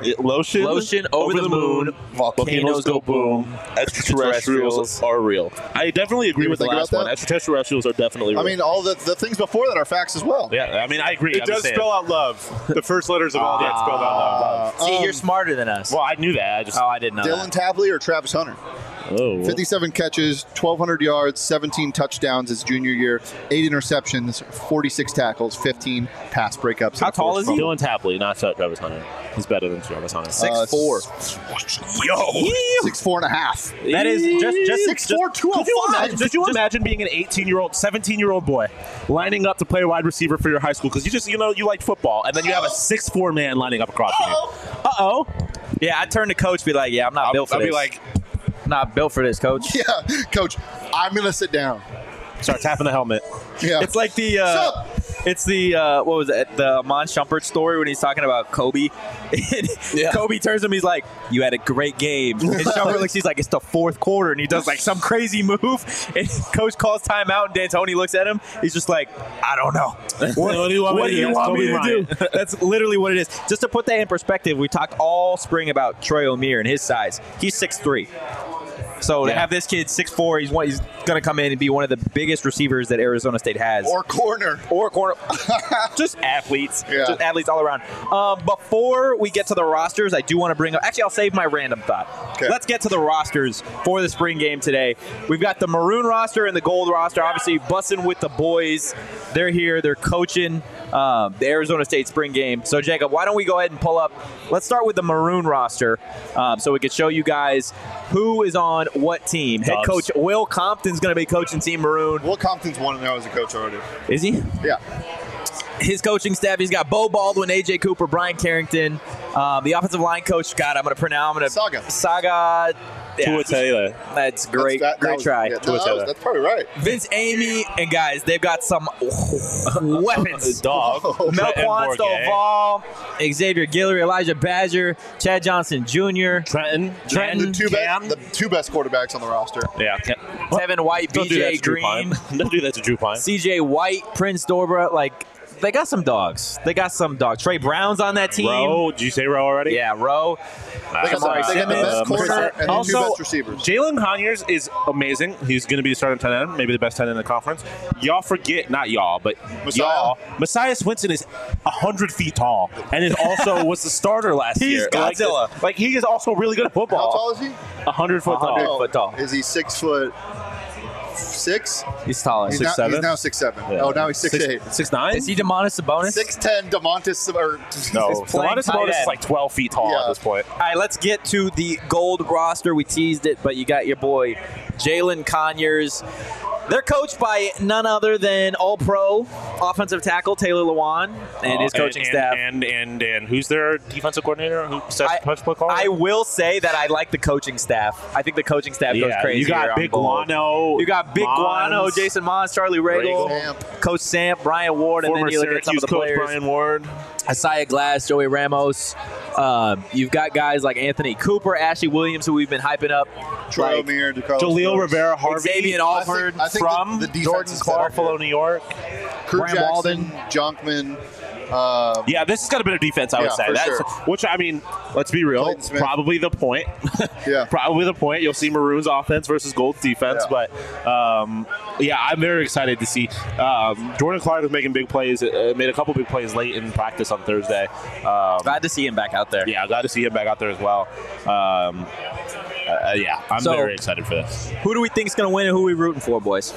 Lotion over the moon, volcanoes go boom, extraterrestrials are real. I definitely agree You with the think about last one. that? Extraterrestrials are definitely real. I mean, all the things before that are facts as well. yeah, I mean, I agree. It I'm does just saying. spell out love. The first letters of all that spell out love. See, you're smarter than us. Well, I knew that. I just. Oh, I didn't know Dylan that. Tapley or Travis Hunter? Oh. 57 catches, 1,200 yards, 17 touchdowns his junior year, 8 interceptions, 46 tackles, 15 pass breakups. How tall is he? Dylan Tapley, not Travis Hunter. He's better than Travis Hunter. 6'4". 6'4" and a half. That is just 6'4", 205. Could you imagine being an 18-year-old, 17-year-old boy lining up to play wide receiver for your high school because you like football, and then you have a 6'4" man lining up across from you? Uh-oh. Yeah, I'd turn to coach, be like, yeah, I'm not built for I'll this. be like, not built for this, coach. Yeah, coach, I'm going to sit down. Start tapping the helmet. Yeah. It's like the Sup? it's the what was it, the Amon Shumpert story when he's talking about Kobe. And Kobe turns to him, he's like, you had a great game. And Shumpert looks, he's like, it's the fourth quarter, and he does like some crazy move, and coach calls timeout, and D'Antoni looks at him, he's just like, I don't know. What do you want me to do? That's literally what it is. Just to put that in perspective, we talked all spring about Troy O'Meara and his size. He's 6'3". So to Yeah. have this kid 6'4", he's going going to come in and be one of the biggest receivers that Arizona State has. Or corner. Just athletes. Yeah. Just athletes all around. Before we get to the rosters, I do want to bring up – actually, I'll save my random thought. Okay. Let's get to the rosters for the spring game today. We've got the maroon roster and the gold roster, obviously bussing with the boys. They're here. They're coaching the Arizona State spring game. So, Jacob, why don't we go ahead and pull up – let's start with the maroon roster so we can show you guys who is on what team. Head coach Will Compton's going to be coaching Team Maroon. Will Compton's 1-0 as a coach already. Is he? Yeah. His coaching staff, he's got Bo Baldwin, AJ Cooper, Brian Carrington. The offensive line coach, God, I'm going to pronounce. Saga. Tua Taylor. That's great. Great try. Yeah, that's probably right. Vince Amy, and guys, they've got some weapons. Dog. Melquan Stovall, Xavier Guillory, Elijah Badger, Chad Johnson Jr., Trenton. The two best quarterbacks on the roster. Yeah. Tevin White, BJ Green. Don't do that to Drew Pine. CJ White, Prince Dorbra, they got some dogs. Trey Brown's on that team. Rowe. Did you say Rowe already? Yeah, Rowe. They got the best corner and the two best receivers. Jalen Conyers is amazing. He's going to be the starting tight end, maybe the best tight end in the conference. Y'all forget, not y'all, but Messiah Swinson is 100 feet tall and is also was the starter last year. He's Godzilla. Like he is also really good at football. How tall is he? 100 foot tall. 100 foot tall. Is he 6'6"? He's taller. He's 6'7"? now 6'7". Yeah. Oh, now he's 6'8". 6'9"? Is he Demontis Sabonis? 6'10", DeMontis. No, playing Demontis tight Sabonis end. is like 12 feet tall Yeah. at this point. All right, let's get to the gold roster. We teased it, but you got your boy Jalen Conyers. They're coached by none other than All-Pro offensive tackle Taylor Lewan and his coaching staff. And who's their defensive coordinator? Who sets the punch play call? I will say that I like the coaching staff. I think the coaching staff goes crazy. You got here Big on gold. Guano. You got Big Guano, Jason Mons, Charlie Regal, Coach Samp, Brian Ward, and Former then you look at some of the Syracuse coach players. Brian Ward. Isaiah Glass, Joey Ramos. You've got guys like Anthony Cooper, Ashley Williams, who we've been hyping up. Troy O'Meara, Jaleel Rivera, Harvey. Xavier Alford I think from the defense Jordan is Clark, better. Buffalo, New York. Kurt Graham Jackson, Walden. Jonkman. Yeah, this has got a bit of defense, I would say. for That's sure. which I mean, let's be real. Clayton Smith. Probably the point. Yeah. Probably the point. You'll see Maroons offense versus Gold's defense, Yeah. but yeah, I'm very excited to see. Jordan Clark was making big plays. Made a couple big plays late in practice on Thursday. Glad to see him back out there. Yeah, glad to see him back out there as well. Yeah, I'm So- very excited for this. Who do we think is going to win and who are we rooting for, boys?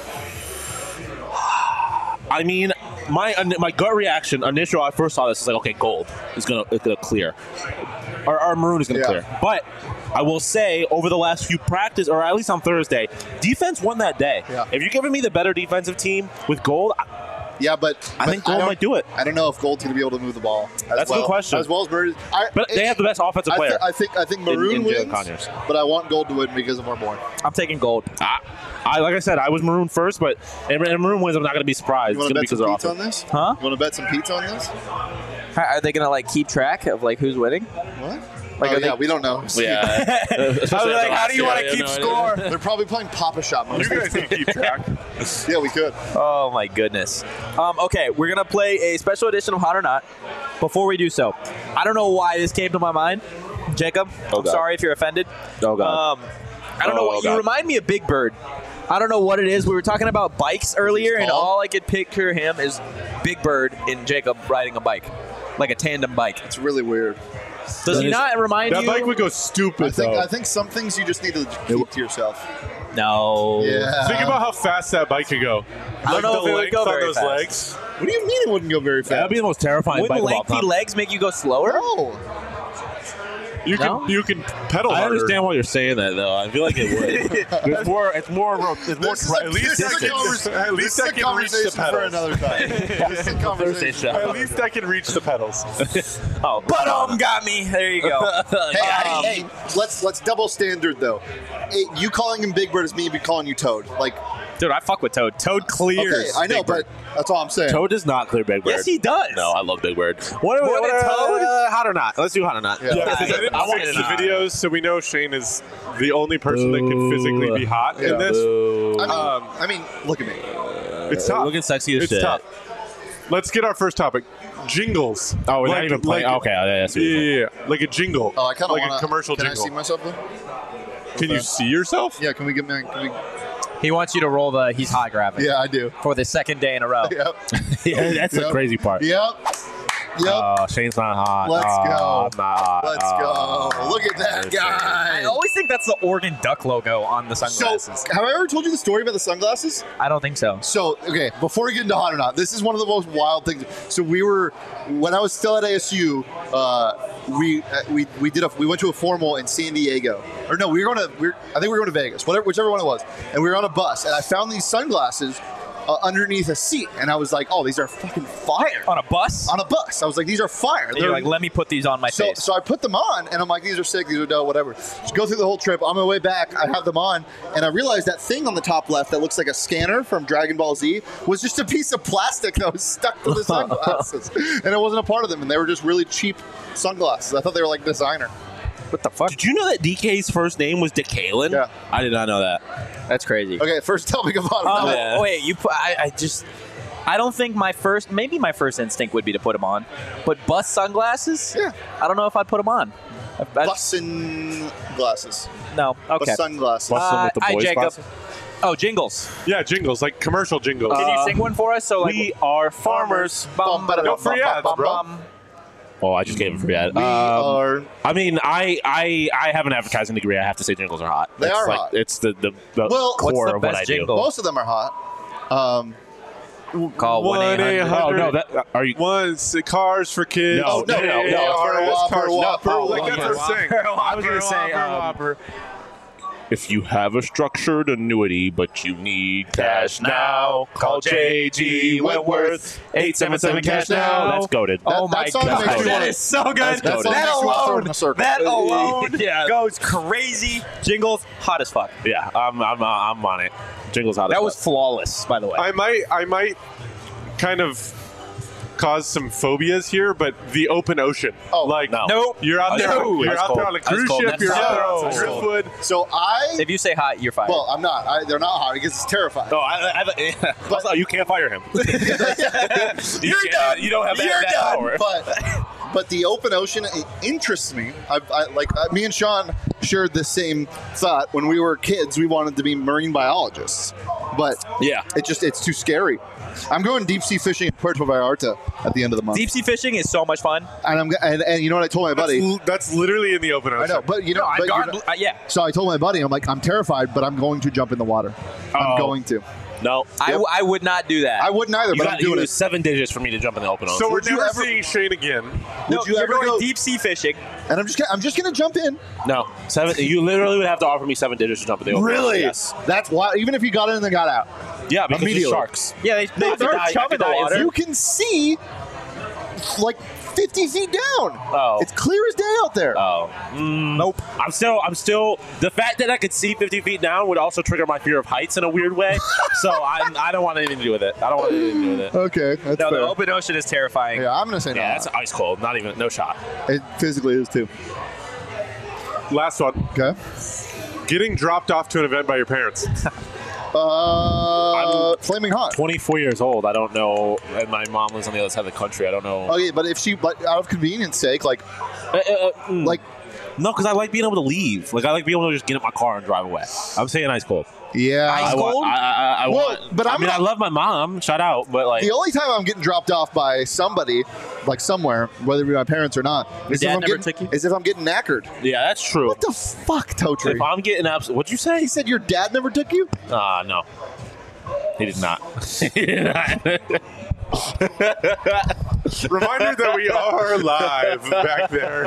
I mean, my gut reaction initial, I first saw this is like, okay, Gold is gonna clear, or Maroon is gonna Yeah. clear. But I will say, over the last few practice, or at least on Thursday, defense won that day. Yeah. If you're giving me the better defensive team with Gold, Yeah, but I think Gold don't- might do it. I don't know if Gold's going to be able to move the ball. That's a good question. As well as Maroon. but they have the best offensive player. I think Maroon in Jalen wins, Conyers. but I want Gold to win because of Marborn. I'm taking gold. I like I said, I was Maroon first, but if Maroon wins, I'm not going to be surprised. You It's want going to to be bet because some of their pizza offense. on this? Huh? You want to bet some pizza on this? Are they going to keep track of who's winning? What? Like, oh, are they- yeah, we don't know. Yeah. I was like, how do you want to keep score? They're probably playing Papa Shop. You guys can keep track. Yeah, we could. Oh my goodness. Okay, we're gonna play a special edition of Hot or Not. Before we do so, I don't know why this came to my mind, Jacob. Oh, I'm God. sorry if you're offended. Oh, God. I don't know. Oh, You God. remind me of Big Bird. I don't know what it is. We were talking about bikes earlier, and called? all I could picture him is Big Bird and Jacob riding a bike, like a tandem bike. It's really weird. Does he not remind That you? bike would go stupid, though. I think some things you just need to keep to yourself. No. Yeah. Think about how fast that bike could go. I don't know the if it would length go on very those fast. legs. What do you mean it wouldn't go very That'd fast? be the most terrifying bike Wouldn't of all lengthy time. legs make you go slower? No. You No? can pedal I harder. understand why you're saying that, though. I feel like it would. It's more. It's more. This is a- At least this is a I can- convers- at least this is I a can reach the conversation for pedals. another time. This is a conversation. show. At least I can reach the pedals. Oh, But got me. There you go. Hey, let's double standard though. Hey, you calling him Big Bird is me calling you Toad. Like, Dude, I fuck with Toad. Toad clears. okay, I know, Big Bird. but that's all I'm saying. Toad does not clear Big Bird. Yes, he does. No, I love Big Bird. More than Toad? Hot or not? Let's do hot or not. Yeah. Yeah, because I didn't I want fix it the not. videos, so we know Shane is the only person that can physically be hot Yeah. in this. I mean, look at me. It's tough. Looking sexy as It's shit. tough. Let's get our first topic. Jingles. Oh, we're not Like- even playing. like- Okay, yeah, Yeah, like a jingle. Oh, I kind of like want a commercial Can jingle. I see myself though? Can you see yourself? Yeah. Can we get me? He wants you to roll the he's hot graphic Yeah, I do. for the second day in a row. Yep. Yeah, that's the Yep. crazy part. Yep. Yep. Shane's not hot. Let's go. I'm not hot. Let's go. Look at that guy. I always think that's the Oregon Duck logo on the So, sunglasses. have I ever told you the story about the sunglasses? I don't think so. So, okay, before we get into hot or not, this is one of the most wild things. So when I was still at ASU, we went to a formal in San Diego, or no, I think we were going to Vegas, whichever one it was, and we were on a bus, and I found these sunglasses underneath a seat, and I was like, oh, these are fucking fire. On a bus? On a bus, I was like, these are fire. And you're like, let me put these on my face. So I put them on, and I'm like, these are sick, these are dope, whatever. Just go through the whole trip. On my way back, I have them on, and I realized that thing on the top left that looks like a scanner from Dragon Ball Z was just a piece of plastic that was stuck to the sunglasses. And it wasn't a part of them, and they were just really cheap sunglasses. I thought they were like designer. What the fuck? Did you know that DK's first name was Decalen? Yeah. I did not know that. That's crazy. Okay, first tell me about it. Oh, Yeah. wait, I don't think maybe my first instinct would be to put them on, but bus sunglasses? Yeah. I don't know if I'd put them on. Bussin' glasses. No, okay. Bus sunglasses. Bussin' with the Hi, boys' Jacob. glasses? Oh, jingles. Yeah, jingles, like commercial jingles. Can you sing one for us? So like, We are farmers. bum, ba, No free ads, bro. Oh, I just gave it free ad. We are. I mean, I have an advertising degree. I have to say jingles are hot. They It's are like, hot. It's the Well, what's core the of what best I do. jingle? Most of them are hot. call 1-800. Oh no, that are you? Once cars for kids. No, no, no, no. Whopper, Whopper, Like that's Whopper. what I'm saying. I was gonna say. If you have a structured annuity, but you need cash now, call JG Wentworth 877 cash now. That's goated. Oh my that song god, makes me that wanna- is so good. That song That makes me wanna throw it in alone, a circle. that alone Yeah. goes crazy. Jingles, hot as fuck. Yeah, I'm on it. Jingles out. That was flawless, by the way. I might kind of cause some phobias here, but the open ocean. Oh, like no. Nope. you're out there. No. You're That's out there cold. on a That's cruise cold. ship. That's You're out there cold. on That's cold. driftwood. So If you say hot, you're fired. well, I'm not. They're not hot because it's terrifying. No, but you can't fire him. You're done. You don't have You're that done. power. But the open ocean interests me. Me and Sean shared the same thought when we were kids. We wanted to be marine biologists, but Yeah. it's too scary. I'm going deep sea fishing in Puerto Vallarta at the end of the month. Deep sea fishing is so much fun. And you know what I told my buddy? That's literally in the open I ocean. know, but you know, but you know- Yeah. so I told my buddy, I'm like, I'm terrified, but I'm going to jump in the water. I'm Oh. going to. No. I would not do that. I wouldn't either, You but got I'm to doing use it. 7 digits for me to jump in the open ocean. So we're Would you never ever- seeing Shane again. no, Would you you're ever going go- deep sea fishing. And I'm just gonna jump in. No, 7. You literally would have to offer me 7 digits to jump in the open. Really? Yes. That's why. Even if you got in and then got out, Yeah, because Immediately. it's sharks. Yeah, they No, throw I chum could in the die water. you can see like 50 feet down. Oh. It's clear as day out there. Oh. Nope. I'm still. The fact that I could see 50 feet down would also trigger my fear of heights in a weird way. So I don't want anything to do with it. I don't want anything to do with it. Okay, that's No, fair. the open ocean is terrifying. Yeah, I'm gonna say Yeah, no. that's ice cold. Not even no shot. It physically is too. Last one. Okay. Getting dropped off to an event by your parents. Flaming hot. 24 years old. I don't know. And my mom lives on the other side of the country. I don't know. Okay, but if she, but out of convenience sake, like No, because I like being able to leave. Like I like being able to just get in my car and drive away. I'm saying ice cold. yeah. I want. I Well, want. but I I'm mean, not- I love my mom. Shout out. But like, The only time I'm getting dropped off by somebody, like somewhere, whether it be my parents or not, is dad if I'm never getting, took you? is if I'm getting knackered. yeah, that's true. What the fuck, Totri? If I'm getting what'd you say? He said your dad never took you? No. He did not. He did not. Reminder that we are live back there.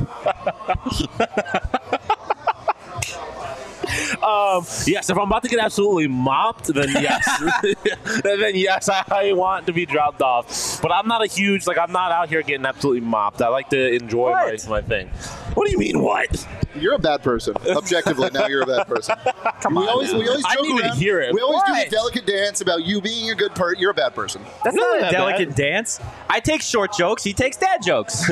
Yes, if I'm about to get absolutely mopped, then yes. Then yes, I want to be dropped off. But I'm not a huge, I'm not out here getting absolutely mopped. I like to enjoy my thing. What do you mean, what? You're a bad person. Objectively, now you're a bad person. Come on. We always I joke didn't even around. hear it. We always do What? the delicate dance about you being a good person. You're a bad person. That's Not not a that delicate bad. dance. I take short jokes. He takes dad jokes.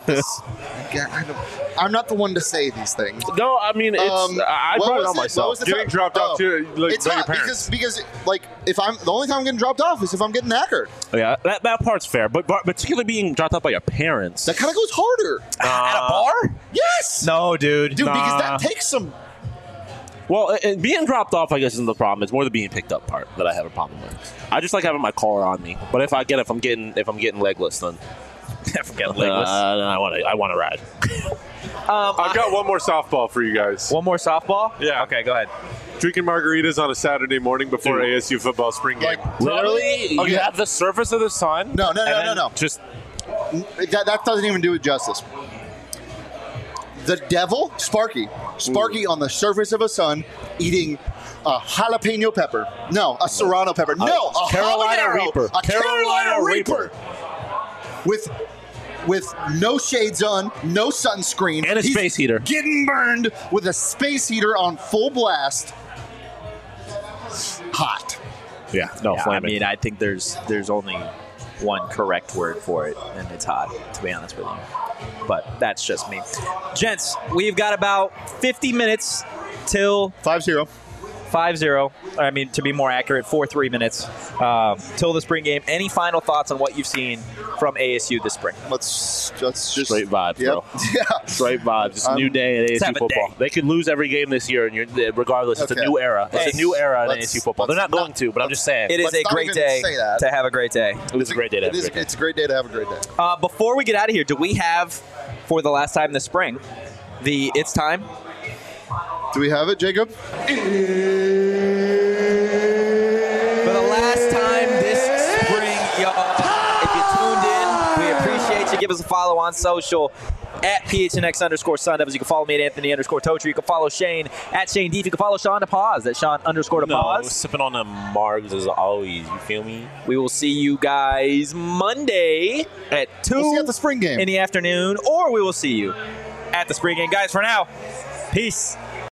I'm not the one to say these things. No, I mean, it's. I what brought it was on What myself. was the Getting time? dropped off to It's by your not parents. because like if I'm the only time I'm getting dropped off is if I'm getting knackered. Yeah, that part's fair. But particularly being dropped off by your parents. That kind of goes harder. At a bar? Yes. No, dude. Dude, because Nah. that takes some. Well, and being dropped off, I guess, isn't the problem. It's more the being picked up part that I have a problem with. I just like having my car on me. But if I'm getting legless, then Forget legless. I want to ride. I've got one more softball for you guys. One more softball? Yeah. Okay, go ahead. Drinking margaritas on a Saturday morning before Dude. ASU football spring game. Literally, Okay. you have the surface of the sun. No. Just That doesn't even do it justice. The devil, Sparky on the surface of a sun, eating a jalapeno pepper. No, a serrano pepper. No, a Carolina habanero. Reaper. A Carolina Carolina Reaper. With no shades on, no sunscreen, And a He's space heater. getting burned with a space heater on full blast. Hot. yeah, I flaming. mean, I think there's only one correct word for it, and it's hot, to be honest with you. But that's just me. Gents, we've got about 50 minutes till 5-0. 5-0. I mean, to be more accurate, 4-3 minutes till the spring game. Any final thoughts on what you've seen from ASU this spring? Let's just Straight vibes, yep. bro. Yeah. Straight vibes. It's a new day in let's have ASU a football. day. They could lose every game this year, and regardless, it's Okay. a new era. It's a new era in Let's- ASU football. They're not let's going to, but I'm just saying. It is Let's a not great even day say that. to have a great day. It's a great day to have a great day. It's a great day to have a great day. Before we get out of here, do we have, for the last time this spring, the It's Time? Do we have it, Jacob? For the last time this spring, y'all, if you tuned in, we appreciate you. Give us a follow on social at PHNX_Sun Devils. You can follow me at Anthony_Totri. You can follow Shane at Shane Deef. You can follow Sean DePaz at Sean_DePaz. sipping on the margs as always. You feel me? We will see you guys Monday at 2 We'll see you at the spring game. in the afternoon, or we will see you at the spring game. Guys, for now, peace.